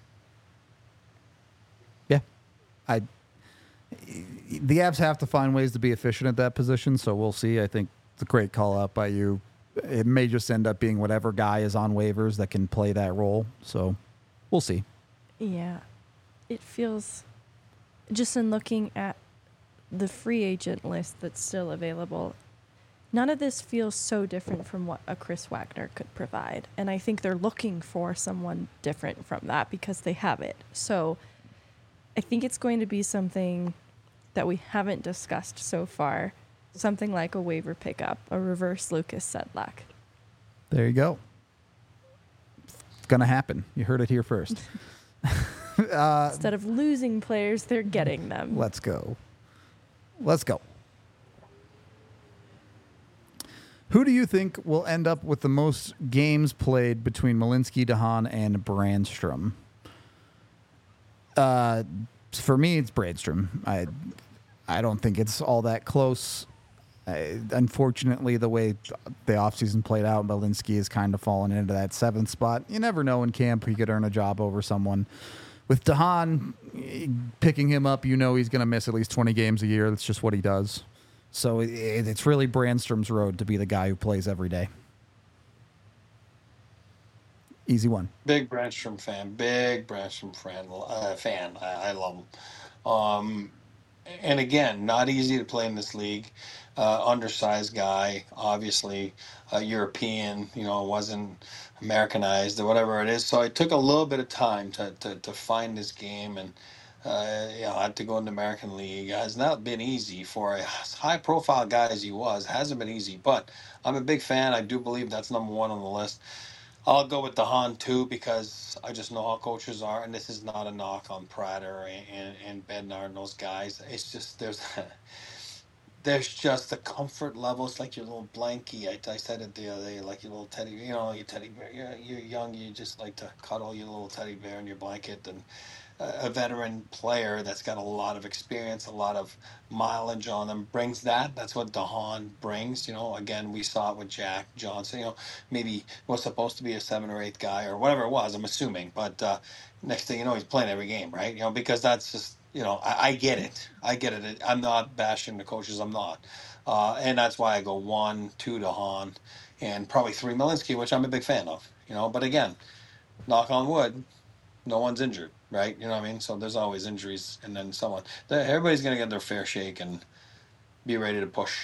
Yeah. The Avs have to find ways to be efficient at that position, so we'll see. I think it's a great call out by you. It may just end up being whatever guy is on waivers that can play that role, so we'll see. Yeah. It feels, just in looking at the free agent list that's still available, none of this feels so different from what a Chris Wagner could provide. And I think they're looking for someone different from that because they have it. So I think it's going to be something that we haven't discussed so far. Something like a waiver pickup, a reverse Lucas Sedlak. There you go. It's going to happen. You heard it here first. Instead of losing players, they're getting them. Let's go. Who do you think will end up with the most games played between Malinsky, DeHaan, and Brandstrom? For me, it's Brandstrom. I don't think it's all that close. Unfortunately, the way the offseason played out, Malinsky has kind of fallen into that 7th spot. You never know in camp he could earn a job over someone. With DeHaan, picking him up, you know he's going to miss at least 20 games a year. That's just what he does. So it's really Brandstrom's road to be the guy who plays every day. Easy one. Big Brandstrom fan. I love him. And again, not easy to play in this league. Undersized guy, obviously European, wasn't Americanized or whatever it is. So it took a little bit of time to find his game, and I had to go in the American League. It has not been easy for a high-profile guy as he was. It hasn't been easy, but I'm a big fan. I do believe that's number one on the list. I'll go with DeHaan too, because I just know how coaches are, and this is not a knock on Prater and Bednar and those guys. It's just there's just the comfort levels, like your little blankie. I said it the other day, like your little teddy, your teddy bear. You're young, you just like to cuddle your little teddy bear in your blanket, and a veteran player that's got a lot of experience, a lot of mileage on them brings that. That's what DeHaan brings. Again, we saw it with Jack Johnson. Maybe was supposed to be a 7th or 8th guy or whatever it was, I'm assuming. But next thing you know, he's playing every game, right? Because that's just, I get it. I'm not bashing the coaches. I'm not. And that's why I go 1, 2 DeHaan, and probably 3 Malinsky, which I'm a big fan of. But again, knock on wood, no one's injured, right? You know what I mean? So there's always injuries, and then someone. Everybody's going to get their fair shake and be ready to push.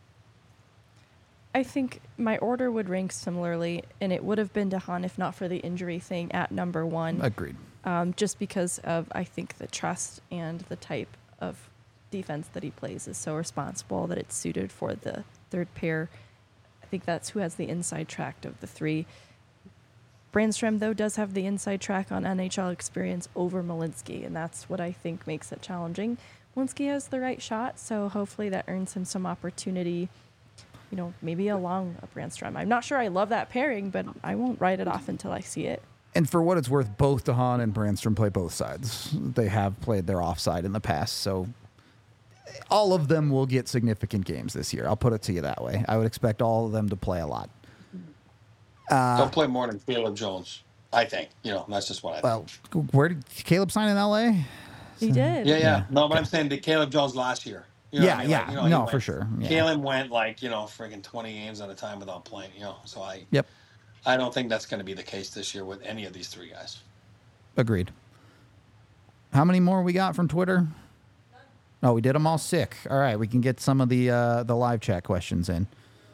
I think my order would rank similarly, and it would have been DeHaan if not for the injury thing at number 1. Agreed. Just because of, I think, the trust and the type of defense that he plays is so responsible that it's suited for the third pair. I think that's who has the inside track of the 3. Brandstrom, though, does have the inside track on NHL experience over Malinsky, and that's what I think makes it challenging. Malinsky has the right shot, so hopefully that earns him some opportunity, maybe along a Brandstrom. I'm not sure I love that pairing, but I won't write it off until I see it. And for what it's worth, both DeHaan and Brandstrom play both sides. They have played their offside in the past, so all of them will get significant games this year. I'll put it to you that way. I would expect all of them to play a lot. They'll play more than Caleb Jones, I think. That's just what I think. Well, where did Caleb sign in L.A.? He did. Yeah. No, but I'm saying the Caleb Jones last year. For sure. Yeah. Caleb went friggin' 20 games at a time without playing. So I don't think that's going to be the case this year with any of these 3 guys. Agreed. How many more we got from Twitter? Oh, we did them all sick. All right, we can get some of the live chat questions in.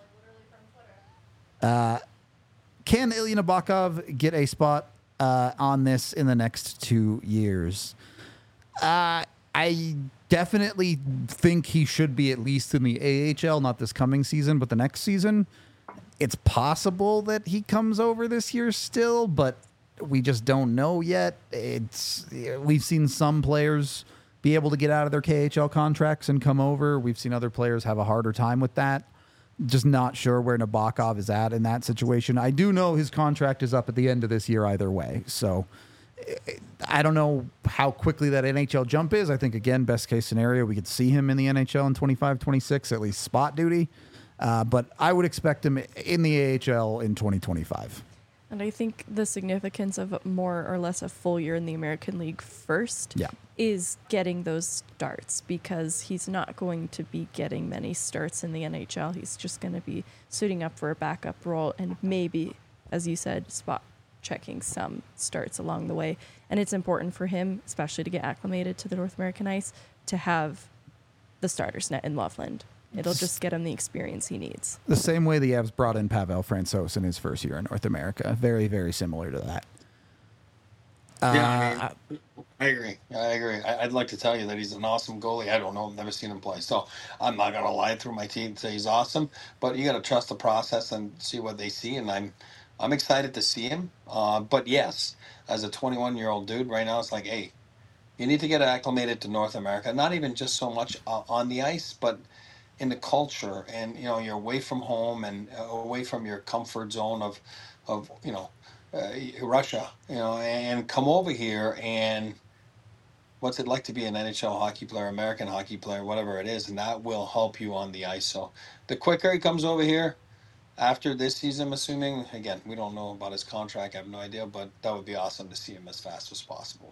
Can Ilya Nabokov get a spot on this in the next 2 years? I definitely think he should be at least in the AHL, not this coming season, but the next season. It's possible that he comes over this year still, but we just don't know yet. We've seen some players be able to get out of their KHL contracts and come over. We've seen other players have a harder time with that. Just not sure where Nabokov is at in that situation. I do know his contract is up at the end of this year either way. So I don't know how quickly that NHL jump is. I think, again, best case scenario, we could see him in the NHL in 25, 26, at least spot duty. But I would expect him in the AHL in 2025. And I think the significance of more or less a full year in the American League first is getting those starts, because he's not going to be getting many starts in the NHL. He's just going to be suiting up for a backup role and maybe, as you said, spot checking some starts along the way. And it's important for him, especially to get acclimated to the North American ice, to have the starters net in Loveland. It'll just get him the experience he needs. The same way the Avs brought in Pavel Francouz in his first year in North America. Very, very similar to that. I agree. I'd like to tell you that he's an awesome goalie. I don't know. I've never seen him play. So I'm not going to lie through my teeth and say he's awesome. But you got to trust the process and see what they see. And I'm excited to see him. But yes, as a 21-year-old dude right now, it's like, hey, you need to get acclimated to North America. Not even just so much on the ice, but in the culture. And, you're away from home and away from your comfort zone of Russia, and come over here, and what's it like to be an NHL hockey player, American hockey player, whatever it is, and that will help you on the ice. So the quicker he comes over here after this season, I'm assuming, again, we don't know about his contract, I have no idea, but that would be awesome to see him as fast as possible.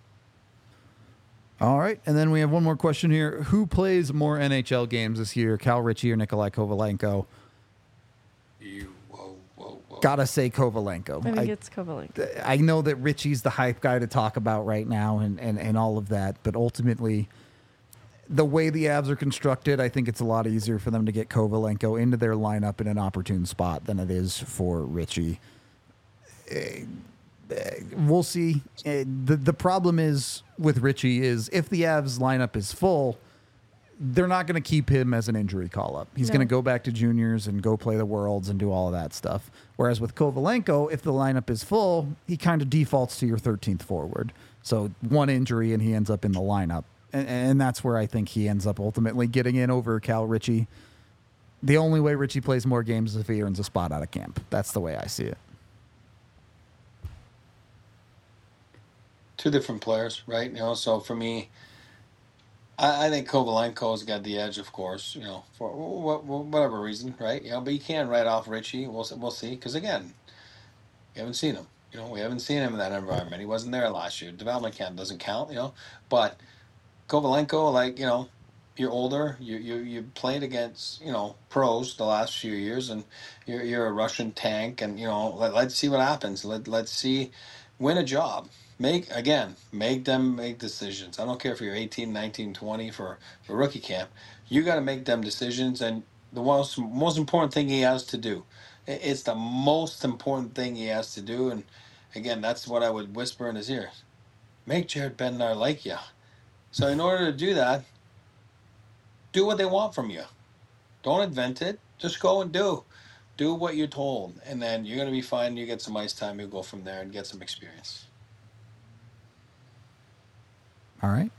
All right, and then we have one more question here. Who plays more NHL games this year, Cal Ritchie or Nikolai Kovalenko? Gotta say Kovalenko. I think it's Kovalenko. I know that Ritchie's the hype guy to talk about right now and all of that, but ultimately, the way the Avs are constructed, I think it's a lot easier for them to get Kovalenko into their lineup in an opportune spot than it is for Ritchie. We'll see. The problem is with Ritchie is if the Avs lineup is full, they're not going to keep him as an injury call-up. He's going to go back to juniors and go play the Worlds and do all of that stuff. Whereas with Kovalenko, if the lineup is full, he kind of defaults to your 13th forward. So one injury and he ends up in the lineup. And that's where I think he ends up ultimately getting in over Cal Ritchie. The only way Ritchie plays more games is if he earns a spot out of camp. That's the way I see it. Two different players, right? So for me, I think Kovalenko's got the edge, of course, for whatever reason, right? But you can't write off Ritchie. We'll see. Because, again, you haven't seen him. We haven't seen him in that environment. He wasn't there last year. Development camp doesn't count, But Kovalenko, you're older. You played against, pros the last few years, and you're a Russian tank. And, let's see what happens. Let's see, win a job. Make them make decisions. I don't care if you're 18, 19, 20 for rookie camp. You got to make them decisions. And the most important thing he has to do, it's the most important thing he has to do. And again, that's what I would whisper in his ear. Make Jared Bednar like you. So in order to do that, do what they want from you. Don't invent it. Just go and do what you're told. And then you're going to be fine. You get some ice time. You'll go from there and get some experience. All right.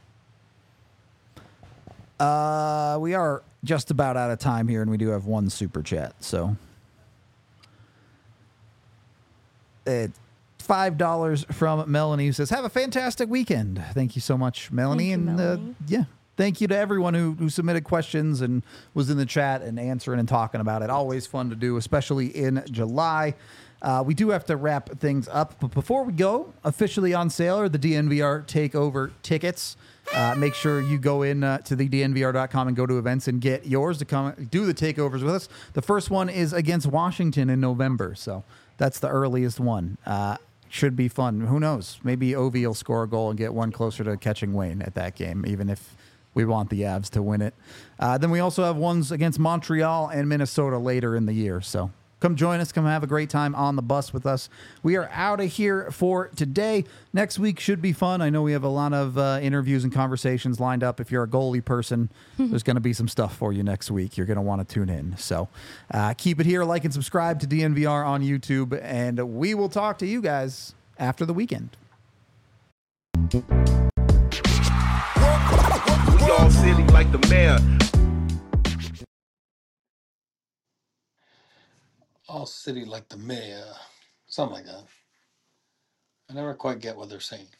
We are just about out of time here, and we do have one super chat. So it's $5 from Melanie, who says, "Have a fantastic weekend." Thank you so much, Melanie. Thank you, Melanie. Thank you to everyone who submitted questions and was in the chat and answering and talking about it. Always fun to do, especially in July. We do have to wrap things up, but before we go, officially on sale are the DNVR Takeover tickets. Make sure you go in to the DNVR.com and go to events and get yours to come do the takeovers with us. The first one is against Washington in November, so that's the earliest one. Should be fun. Who knows? Maybe Ovi will score a goal and get one closer to catching Wayne at that game, even if we want the Avs to win it. Then we also have ones against Montreal and Minnesota later in the year, so come join us. Come have a great time on the bus with us. We are out of here for today. Next week should be fun. I know we have a lot of interviews and conversations lined up. If you're a goalie person, there's going to be some stuff for you next week. You're going to want to tune in. So keep it here. Like and subscribe to DNVR on YouTube. And we will talk to you guys after the weekend. We all city like the mayor. All city like the mayor. Something like that. I never quite get what they're saying.